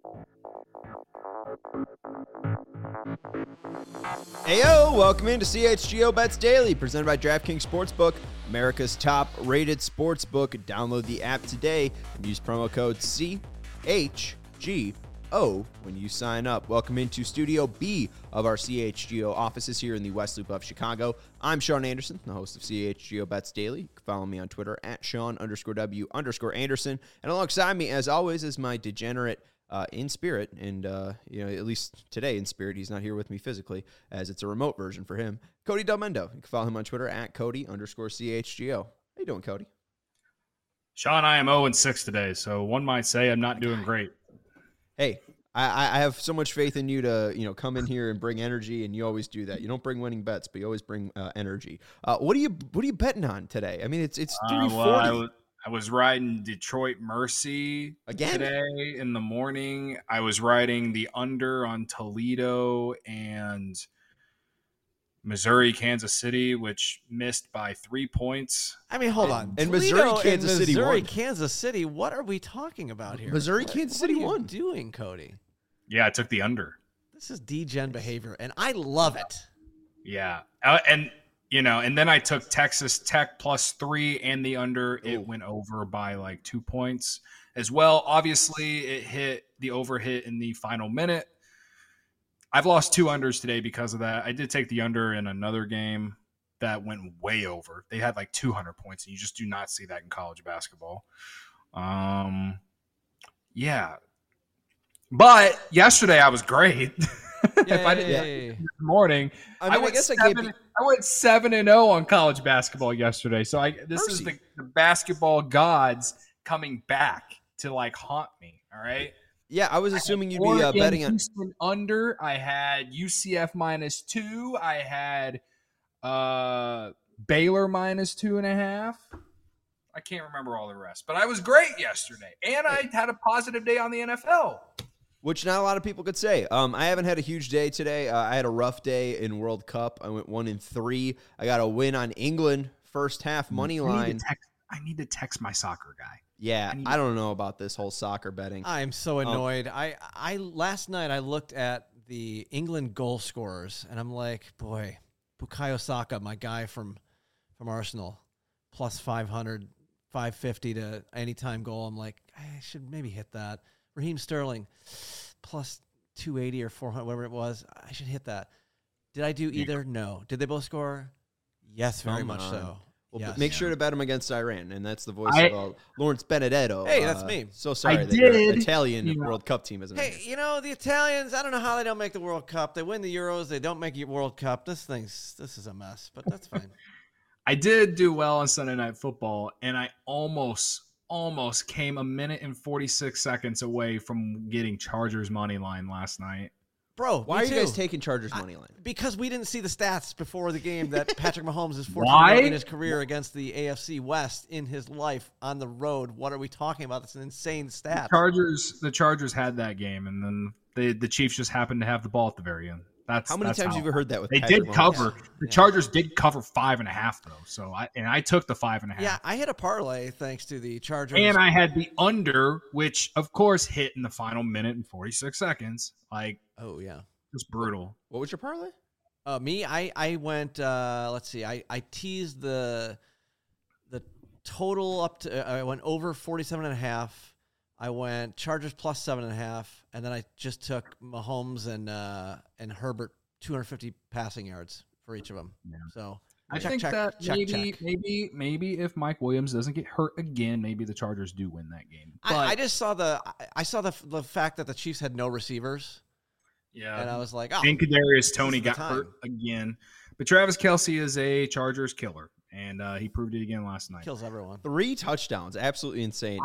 Heyo, welcome into CHGO Bets Daily, presented by DraftKings Sportsbook, America's top-rated sportsbook. Download the app today and use promo code CHGO when you sign up. Welcome into Studio B of our CHGO offices here in the West Loop of Chicago. I'm Sean Anderson, the host of CHGO Bets Daily. You can follow me on Twitter at Sean_W_Anderson. And alongside me, as always, is my degenerate in spirit, and at least today in spirit. He's not here with me physically, as it's a remote version for him. Cody Del Mendo. You can follow him on Twitter at Cody_CHGO. How you doing, Cody? Sean, I am 0-6 today, so one might say I'm not doing great. Hey, I have so much faith in you to come in here and bring energy, and you always do that. You don't bring winning bets, but you always bring energy. What are you betting on today? I mean, it's 340. I was riding Detroit Mercy again today in the morning. I was riding the under on Toledo and Missouri, Kansas City, which missed by 3 points. I mean, hold on. And Toledo Missouri, Kansas City Missouri, won. Kansas City. What are we talking about here? Missouri, Kansas City won. What are you doing, Cody? Yeah, I took the under. This is degen behavior, and I love it. Yeah, and then I took Texas Tech +3 and the under. It went over by like 2 points as well. Obviously, the over hit in the final minute. I've lost 2 unders today because of that. I did take the under in another game that went way over. They had like 200 points, and you just do not see that in college basketball. Yeah. But yesterday I was great. If I didn't this morning, I went 7-0 on college basketball yesterday. So this is the basketball gods coming back to like haunt me. All right. Yeah, I was assuming you'd be betting on Houston under. I had UCF -2. I had Baylor -2.5. I can't remember all the rest, but I was great yesterday, and I had a positive day on the NFL. Which not a lot of people could say. I haven't had a huge day today. I had a rough day in World Cup. I went 1-3. I got a win on England first half money line. I need to text my soccer guy. Yeah, I don't know about this whole soccer betting. I'm so annoyed. I last night I looked at the England goal scorers, and I'm like, boy, Bukayo Saka, my guy from Arsenal, +500, 550 to anytime goal. I'm like, I should maybe hit that. Raheem Sterling, +280 or 400, whatever it was. I should hit that. Did I do either? No. Did they both score? Yes, very much so. Well, yes. make sure to bet them against Iran, and that's the voice of Lawrence Benedetto. Hey, that's me. So sorry that your Italian World Cup team isn't. Hey, the Italians, I don't know how they don't make the World Cup. They win the Euros. They don't make the World Cup. This is a mess, but that's fine. I did do well on Sunday Night Football, and I almost came 1 minute and 46 seconds away from getting Chargers money line last night. Bro, why are you guys taking Chargers money line? Because we didn't see the stats before the game that Patrick Mahomes is 14 in his career against the AFC West in his life on the road. What are we talking about? That's an insane stat. The Chargers had that game, and then the Chiefs just happened to have the ball at the very end. How many times have you ever heard that with they Patrick did Mahomes? cover the Chargers did cover 5.5 though, so I took the 5.5. Yeah, I hit a parlay thanks to the Chargers, and I had the under, which of course hit in the final minute and 46 seconds. Like, oh yeah, just brutal. What was your parlay? Me, I went. Let's see, I teased the total up to. I went over 47.5. I went Chargers +7.5, and then I just took Mahomes and Herbert 250 passing yards for each of them. Yeah. So I think that maybe if Mike Williams doesn't get hurt again, maybe the Chargers do win that game. But I just saw the fact that the Chiefs had no receivers. Yeah, and I was like, oh, and Kadarius Toney got hurt again. But Travis Kelce is a Chargers killer, and he proved it again last night. Kills everyone. 3 touchdowns, absolutely insane.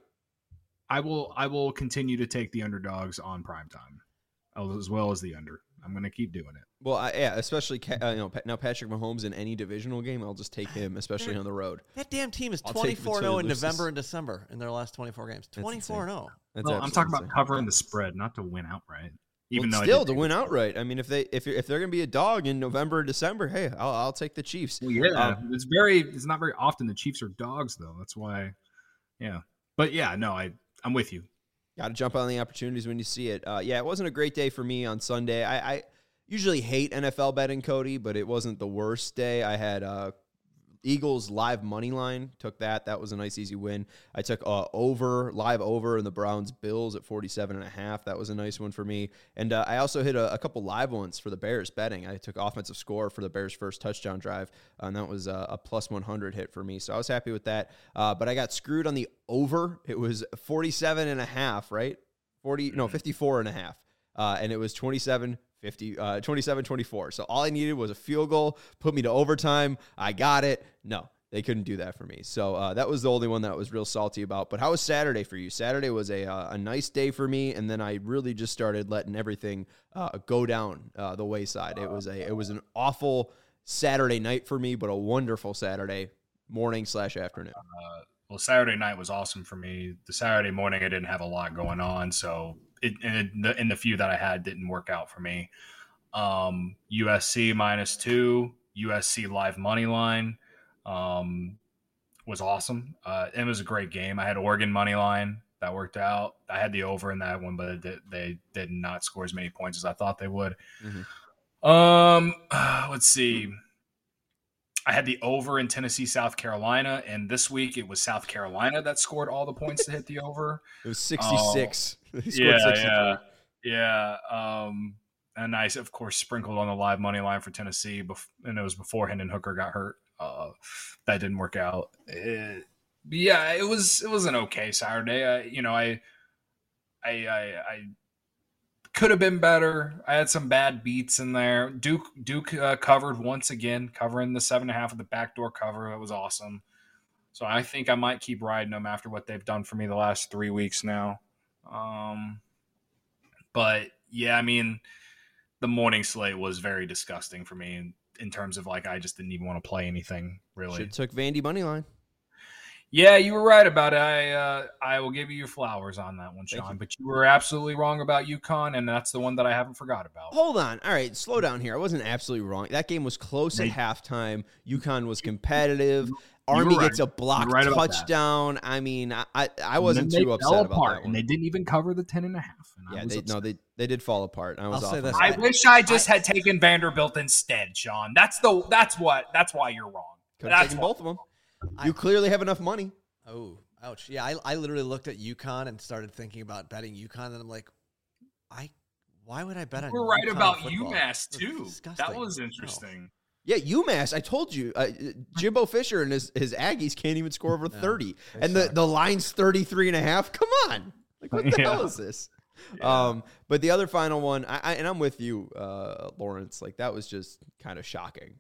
I will continue to take the underdogs on primetime, as well as the under. I'm going to keep doing it. Well, especially now Patrick Mahomes in any divisional game, I'll just take him, especially on the road. That damn team is 24-0 in November and December in their last 24 games. 24-0. Well, I'm talking about covering the spread, not to win outright. To win outright. I mean, if they're going to be a dog in November and December, hey, I'll take the Chiefs. Well, yeah, it's not very often the Chiefs are dogs though. That's why, yeah. But yeah, no, I'm with you. Got to jump on the opportunities when you see it. Yeah, it wasn't a great day for me on Sunday. I usually hate NFL betting, Cody, but it wasn't the worst day. I had Eagles live money line. Took that. That was a nice, easy win. I took live over in the Browns Bills at 47.5. That was a nice one for me. And I also hit a couple live ones for the Bears betting. I took offensive score for the Bears' first touchdown drive, and that was a plus 100 hit for me. So I was happy with that. But I got screwed on the over. It was 47.5, right? 54.5. And it was 27-24. So all I needed was a field goal, put me to overtime. I got it. No, they couldn't do that for me. So that was the only one that I was real salty about. But how was Saturday for you? Saturday was a nice day for me, and then I really just started letting everything go down the wayside. It was an awful Saturday night for me, but a wonderful Saturday morning/afternoon. Well, Saturday night was awesome for me. The Saturday morning, I didn't have a lot going on, so in the few that I had didn't work out for me. USC -2, USC live money line was awesome. It was a great game. I had Oregon money line. That worked out. I had the over in that one, but they did not score as many points as I thought they would. Mm-hmm. Let's see. I had the over in Tennessee, South Carolina, and this week it was South Carolina that scored all the points to hit the over. It was 66. Yeah. And I, of course, sprinkled on the live money line for Tennessee, and it was before Hendon Hooker got hurt. That didn't work out. It was an okay Saturday. I could have been better. I had some bad beats in there. Duke covered once again, covering the 7.5 of the backdoor cover. That was awesome. So I think I might keep riding them after what they've done for me the last 3 weeks now. But yeah, I mean, the morning slate was very disgusting for me in terms of I just didn't even want to play anything really. Should have took Vandy money line. Yeah, you were right about it. I will give you your flowers on that one, Sean. But you were absolutely wrong about UConn, and that's the one that I haven't forgot about. Hold on. All right, slow down here. I wasn't absolutely wrong. That game was close at halftime. UConn was competitive. Army gets a blocked touchdown. I mean, I wasn't too upset about that one. And they didn't even cover the 10.5. Yeah, they did fall apart. I was I'll say this. I wish I just had taken Vanderbilt instead, Sean. That's why you're wrong. Could have taken both of them. You clearly have enough money. Oh, ouch. Yeah, I literally looked at UConn and started thinking about betting UConn, and I'm like, why would I bet on UConn? We're right about football? UMass, too. That was interesting. No. Yeah, UMass, I told you, Jimbo Fisher and his Aggies can't even score over 30. And the line's 33.5. Come on. What the hell is this? Yeah. But the other final one, and I'm with you, Lawrence, that was just kind of shocking.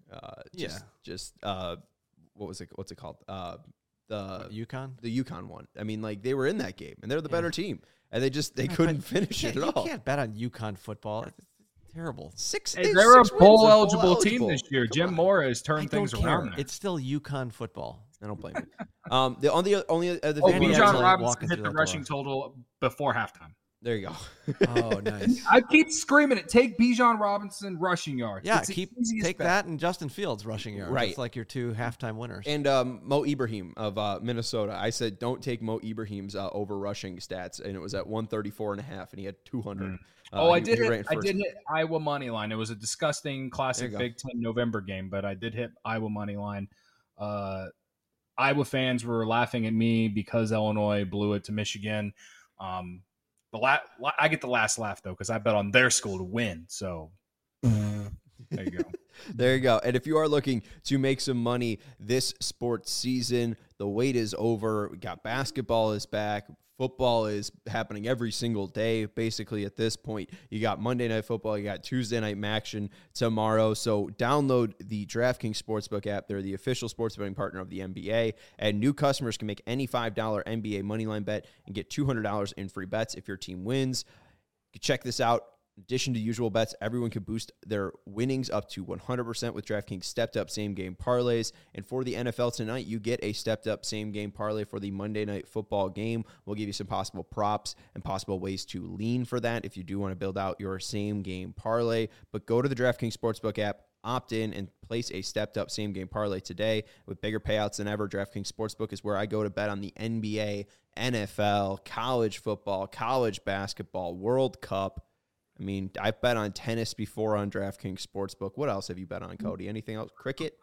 What was it? What's it called? The UConn? The UConn one. I mean, they were in that game, and they're the better team, and they couldn't finish it at all. You can't bet on UConn football. It's terrible. They're a bowl eligible team this year. Jim Mora has turned things around. There. It's still UConn football. I don't blame you. The Bijan Robinson hit the rushing total before halftime. There you go. Oh, nice. I keep screaming it. Take Bijan Robinson rushing yards. Yeah, take that and Justin Fields rushing yards. Right. It's like your two halftime winners. And Mo Ibrahim of Minnesota. I said don't take Mo Ibrahim's over rushing stats, and it was at 134.5, and he had 200. I did hit Iowa money line. It was a disgusting classic Big Ten November game, but I did hit Iowa money line. Iowa fans were laughing at me because Illinois blew it to Michigan. I get the last laugh, though, because I bet on their school to win. So there you go. There you go. And if you are looking to make some money this sports season, the wait is over. We got basketball is back. Football is happening every single day, basically, at this point. You got Monday Night Football. You got Tuesday Night Action tomorrow. So download the DraftKings Sportsbook app. They're the official sports betting partner of the NBA. And new customers can make any $5 NBA moneyline bet and get $200 in free bets if your team wins. Check this out. In addition to usual bets, everyone can boost their winnings up to 100% with DraftKings stepped-up same-game parlays. And for the NFL tonight, you get a stepped-up same-game parlay for the Monday Night Football game. We'll give you some possible props and possible ways to lean for that if you do want to build out your same-game parlay. But go to the DraftKings Sportsbook app, Opt in and place a stepped-up same-game parlay today with bigger payouts than ever. DraftKings Sportsbook is where I go to bet on the NBA, NFL, college football, college basketball, World Cup. I mean, I've bet on tennis before on DraftKings Sportsbook. What else have you bet on, Cody? Anything else? Cricket?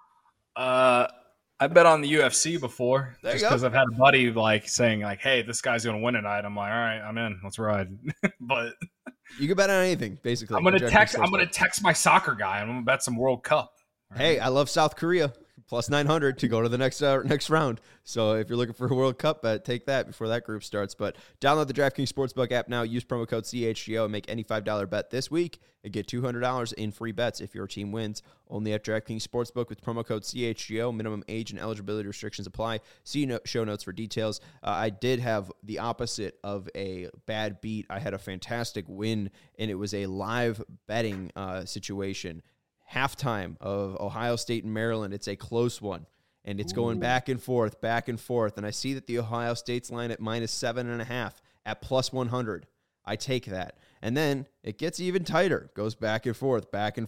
I bet on the UFC before, There you just go. because I've had a buddy like saying like, "Hey, this guy's gonna win tonight." I'm like, "All right, I'm in. Let's ride." But You can bet on anything, basically. I'm gonna on DraftKings text. I'm Sportsbook. gonna text my soccer guy. I'm gonna bet some World Cup. All Hey, right? I love South Korea. Plus 900 to go to the next round. So if you're looking for a World Cup bet, take that before that group starts. But download the DraftKings Sportsbook app now. Use promo code CHGO and make any $5 bet this week and get $200 in free bets if your team wins. Only at DraftKings Sportsbook with promo code CHGO. Minimum age and eligibility restrictions apply. See show notes for details. I did have the opposite of a bad beat. I had a fantastic win, and it was a live betting situation. Halftime of Ohio State and Maryland. It's a close one, and it's going back and forth. And I see that the Ohio State's line at -7.5 at plus 100. I take that. And then it gets even tighter, goes back and forth.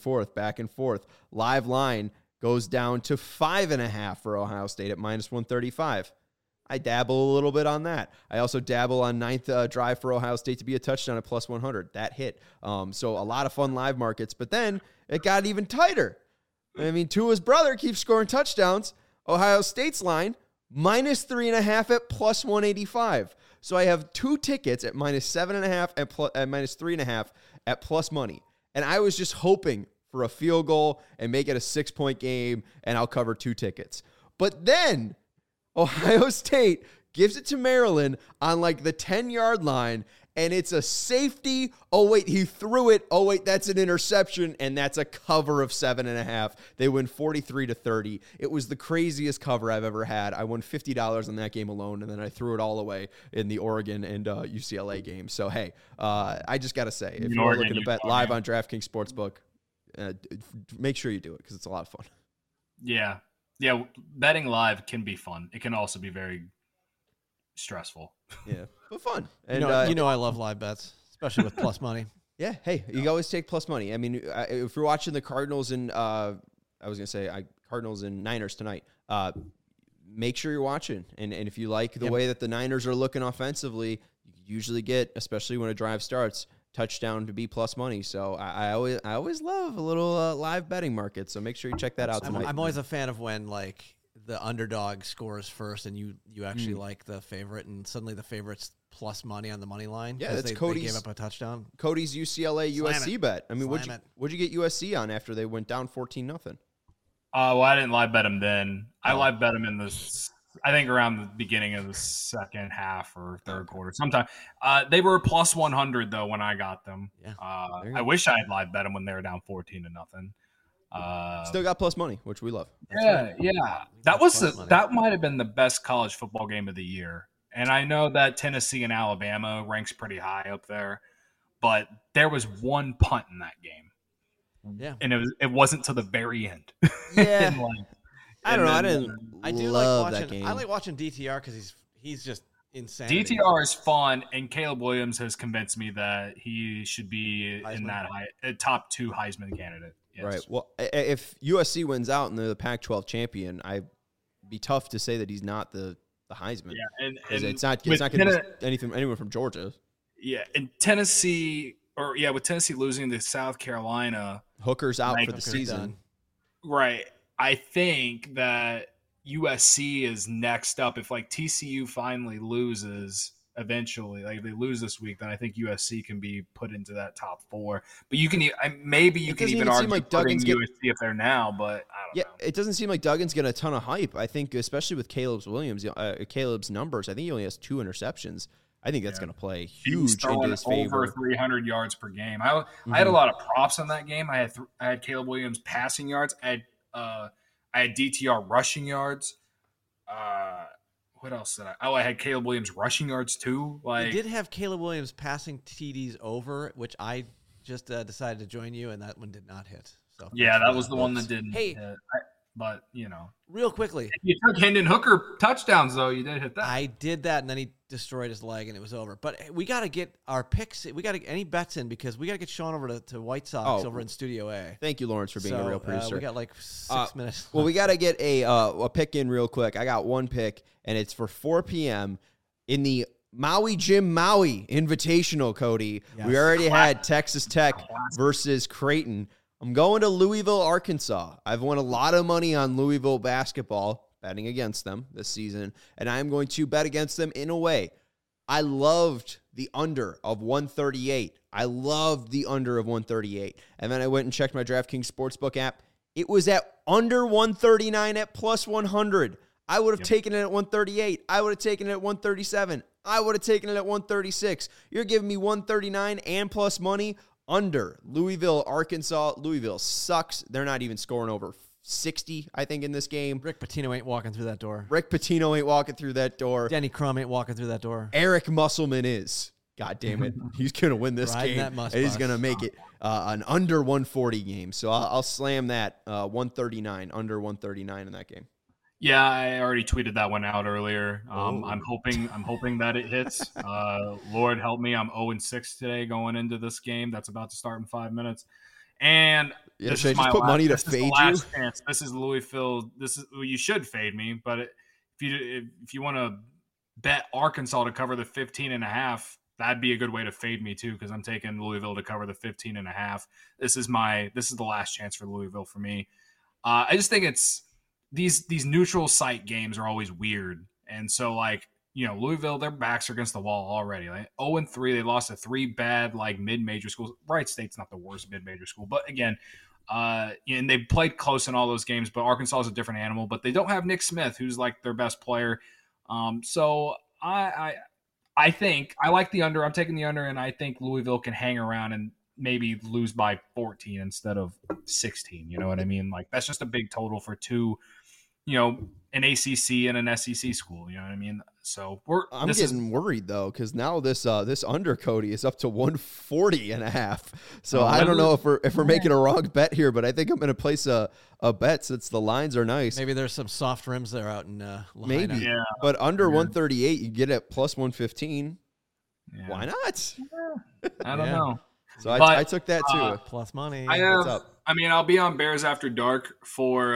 Live line goes down to 5.5 for Ohio State at -135. I dabble a little bit on that. I also dabble on ninth drive for Ohio State to be a touchdown at plus 100. That hit. So a lot of fun live markets. But then it got even tighter. I mean, Tua's brother keeps scoring touchdowns. Ohio State's line, -3.5 at plus 185. So I have two tickets at -7.5 and -3.5 at plus money. And I was just hoping for a field goal and make it a 6-point game, and I'll cover two tickets. But then Ohio State gives it to Maryland on like the 10-yard line, and it's a safety. Oh, wait, he threw it. Oh, wait, that's an interception, and that's a cover of 7.5. They win 43-30. It was the craziest cover I've ever had. I won $50 on that game alone, and then I threw it all away in the Oregon and UCLA game. So, hey, I just got to say, if you're looking to bet live on DraftKings Sportsbook, make sure you do it because it's a lot of fun. Yeah. Yeah, betting live can be fun. It can also be very stressful. Yeah, but fun. And you know I love live bets, especially with plus money. Yeah, hey, you always take plus money. I mean, if you're watching the Cardinals and Cardinals and Niners tonight, make sure you're watching. And if you like the way that the Niners are looking offensively, you usually get, especially when a drive starts, touchdown to be plus money. So I always love a little live betting market. So make sure you check that out tonight. I'm always a fan of when like the underdog scores first and you actually like the favorite, and suddenly the favorite's plus money on the money line. Yeah, that's they Cody's. Gave up a touchdown. Cody's UCLA USC bet. I mean, What'd you get USC on after they went down 14-0? Well, I didn't live bet him then. I live bet him in I think around the beginning of the second half or third quarter. Sometime they were plus 100 though when I got them. Yeah. I wish I had live bet them when they were down 14-0. Still got plus money, which we love. Yeah. That might have been the best college football game of the year. And I know that Tennessee and Alabama ranks pretty high up there, but there was one punt in that game. Yeah. And it wasn't to the very end. Yeah. I don't know. I do love like watching. that game. I like watching DTR because he's just insane. DTR is fun, and Caleb Williams has convinced me that he should be in that top 2 Heisman candidate. Yes. Right. Well, if USC wins out and they're the Pac-12 champion, I'd be tough to say that he's not the Heisman. Yeah, and it's not going to be anyone from Georgia. Yeah, and Tennessee, with Tennessee losing to South Carolina, Hooker's out for the season. Done. Right. I think that USC is next up. If like TCU finally loses eventually, like if they lose this week, then I think USC can be put into that top 4. But you can even argue like putting USC if they're now, but I don't know. It doesn't seem like Duggan's getting a ton of hype. I think especially with Caleb's numbers, I think he only has 2 interceptions. I think that's going to play huge into his favor. Over 300 yards per game. I had a lot of props on that game. I had Caleb Williams passing yards. I had DTR rushing yards. What else did I? I had Caleb Williams rushing yards too. You did have Caleb Williams passing TDs over, which I just decided to join you, and that one did not hit. So yeah, that was the one that didn't hit. But, Real quickly. if you took Hendon Hooker touchdowns, though, you did hit that. I did that, and then he destroyed his leg, and it was over. But we got to get our picks. We got to any bets in because we got to get Sean over to White Sox over in Studio A. Thank you, Lawrence, for being a real producer. We got like 6 minutes. Well, we got to get a pick in real quick. I got one pick, and it's for 4 p.m. in the Maui Jim Maui Invitational, Cody. Yes. We already had Texas Tech versus Creighton. I'm going to Louisville, Arkansas. I've won a lot of money on Louisville basketball, betting against them this season, and I'm going to bet against them in a way. I loved the under of 138. I loved the under of 138. And then I went and checked my DraftKings Sportsbook app. It was at under 139 at plus 100. I would have taken it at 138. I would have taken it at 137. I would have taken it at 136. You're giving me 139 and plus money under Louisville, Arkansas. Louisville sucks. They're not even scoring over 60, I think, in this game. Rick Pitino ain't walking through that door. Rick Pitino ain't walking through that door. Denny Crum ain't walking through that door. Eric Musselman is. God damn it. He's going to win this game. And he's going to make it an under 140 game. So I'll slam that 139, under 139 in that game. Yeah, I already tweeted that one out earlier. I'm hoping that it hits. Lord help me, I'm 0-6 today going into this game that's about to start in 5 minutes. And this is my put money to fade you. Chance. This is Louisville. You should fade me, but if you want to bet Arkansas to cover the 15.5, that'd be a good way to fade me too, because I'm taking Louisville to cover the 15.5. This is the last chance for Louisville for me. I just think it's these neutral site games are always weird. And so Louisville, their backs are against the wall already. 0-3, they lost to 3 bad mid-major schools. Wright State's not the worst mid-major school, but again, and they played close in all those games, but Arkansas is a different animal, but they don't have Nick Smith, who's their best player. So I think I like the under. I'm taking the under, and I think Louisville can hang around and maybe lose by 14 instead of 16. You know what I mean? That's just a big total for two, an ACC and an SEC school. You know what I mean? So I'm getting worried though, because now this under, Cody, is up to 140.5. So I don't know if we're making a wrong bet here, but I think I'm going to place a bet since the lines are nice. Maybe there's some soft rims there out in Lahaina. Maybe, yeah. But under 138, you get it plus 115. Yeah. Why not? Yeah. I don't know. So I took that too. Plus money. I'll be on Bears After Dark for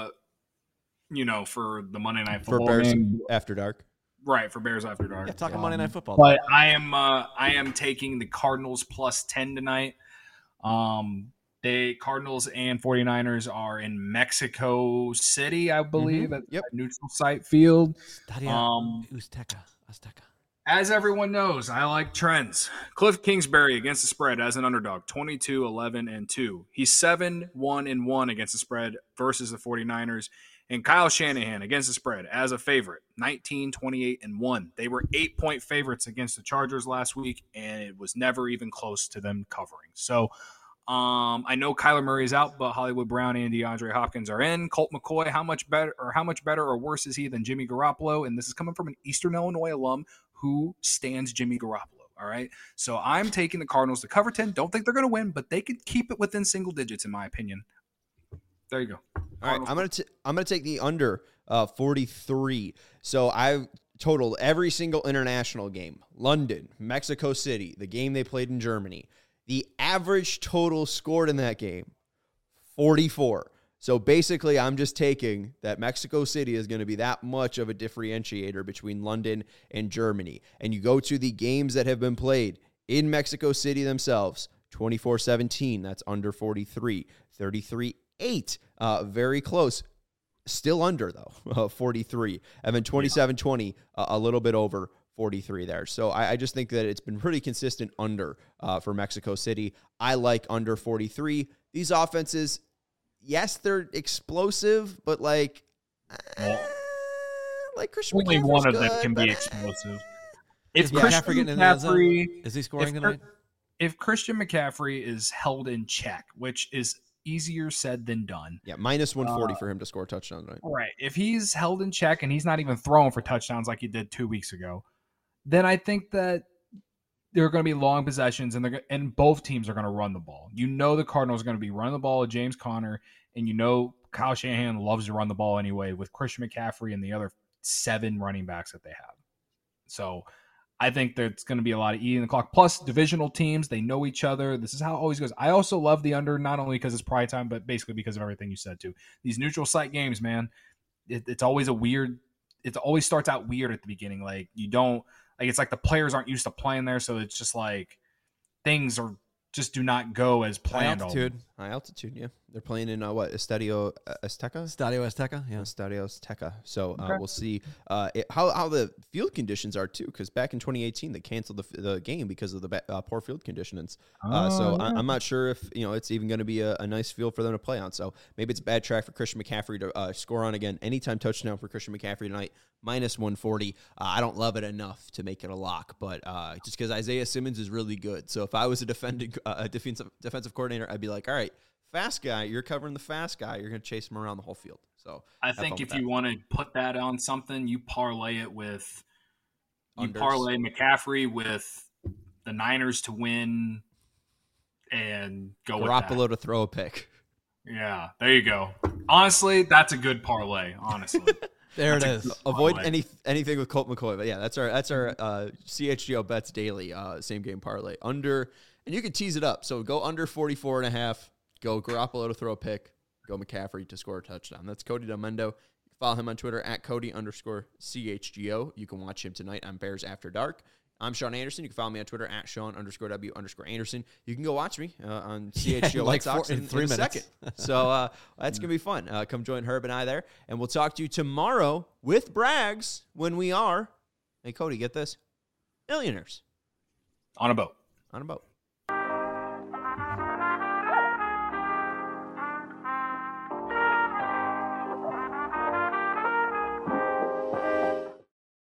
for the Monday Night Football for Bears game. After Dark. Right, for Bears After Dark. Yeah, talking Monday Night Football. But I am taking the Cardinals plus 10 tonight. The Cardinals and 49ers are in Mexico City, I believe, at a neutral site field. Azteca. As everyone knows, I like trends. Cliff Kingsbury against the spread as an underdog, 22-11-2. He's 7-1-1 against the spread versus the 49ers. And Kyle Shanahan against the spread as a favorite, 19-28-1. They were 8-point favorites against the Chargers last week, and it was never even close to them covering. So I know Kyler Murray is out, but Hollywood Brown and DeAndre Hopkins are in. Colt McCoy, how much better or worse is he than Jimmy Garoppolo? And this is coming from an Eastern Illinois alum who stands Jimmy Garoppolo. All right. So I'm taking the Cardinals to cover 10. Don't think they're going to win, but they could keep it within single digits, in my opinion. There you go. All right. I'm gonna take the under 43. So I've totaled every single international game. London, Mexico City, the game they played in Germany. The average total scored in that game, 44. So basically, I'm just taking that Mexico City is going to be that much of a differentiator between London and Germany. And you go to the games that have been played in Mexico City themselves, 24-17, that's under 43, 33-8, very close. Still under, though, 43. And then 27-20, a little bit over 43 there. So I just think that it's been pretty consistent under for Mexico City. I like under 43. These offenses, yes, they're explosive, but like Christian only McCaffrey's one of good, them can but be explosive. If Christian McCaffrey is he scoring tonight? If Christian McCaffrey is held in check, which is easier said than done. Yeah, minus 140 for him to score a touchdown tonight. Right. If he's held in check and he's not even throwing for touchdowns like he did 2 weeks ago, then I think that there are going to be long possessions, and both teams are going to run the ball. You know the Cardinals are going to be running the ball with James Conner, and you know Kyle Shanahan loves to run the ball anyway with Christian McCaffrey and the other 7 running backs that they have. So I think there's going to be a lot of eating the clock. Plus, divisional teams, they know each other. This is how it always goes. I also love the under, not only because it's prime time, but basically because of everything you said, too. These neutral site games, man, it's always it always starts out weird at the beginning. Like, it's like the players aren't used to playing there, so it's just like things just do not go as planned. High altitude, yeah. They're playing in Estadio Azteca? Estadio Azteca, yeah. Estadio Azteca. So we'll see how the field conditions are, too, because back in 2018, they canceled the game because of the poor field conditions. I'm not sure if it's even going to be a nice field for them to play on. So maybe it's a bad track for Christian McCaffrey to score on again. Anytime touchdown for Christian McCaffrey tonight, minus 140. I don't love it enough to make it a lock, but just because Isaiah Simmons is really good. So if I was a defensive coordinator, I'd be like, all right, fast guy, you're covering the fast guy. You're going to chase him around the whole field. So I think if you want to put that on something, you parlay it with parlay McCaffrey with the Niners to win and go with that. Garoppolo to throw a pick. Yeah, there you go. Honestly, that's a good parlay. Honestly, there it is. Avoid anything with Colt McCoy, but yeah, that's our CHGO bets daily same game parlay under, and you can tease it up. So go under 44.5. Go Garoppolo to throw a pick. Go McCaffrey to score a touchdown. That's Cody Delmendo. Follow him on Twitter at Cody_CHGO. You can watch him tonight on Bears After Dark. I'm Sean Anderson. You can follow me on Twitter at Sean_W_Anderson. You can go watch me on CHGO like White Sox in 3 minutes. a second. So that's going to be fun. Come join Herb and I there. And we'll talk to you tomorrow with Braggs when we are, hey, Cody, get this, millionaires. On a boat. On a boat.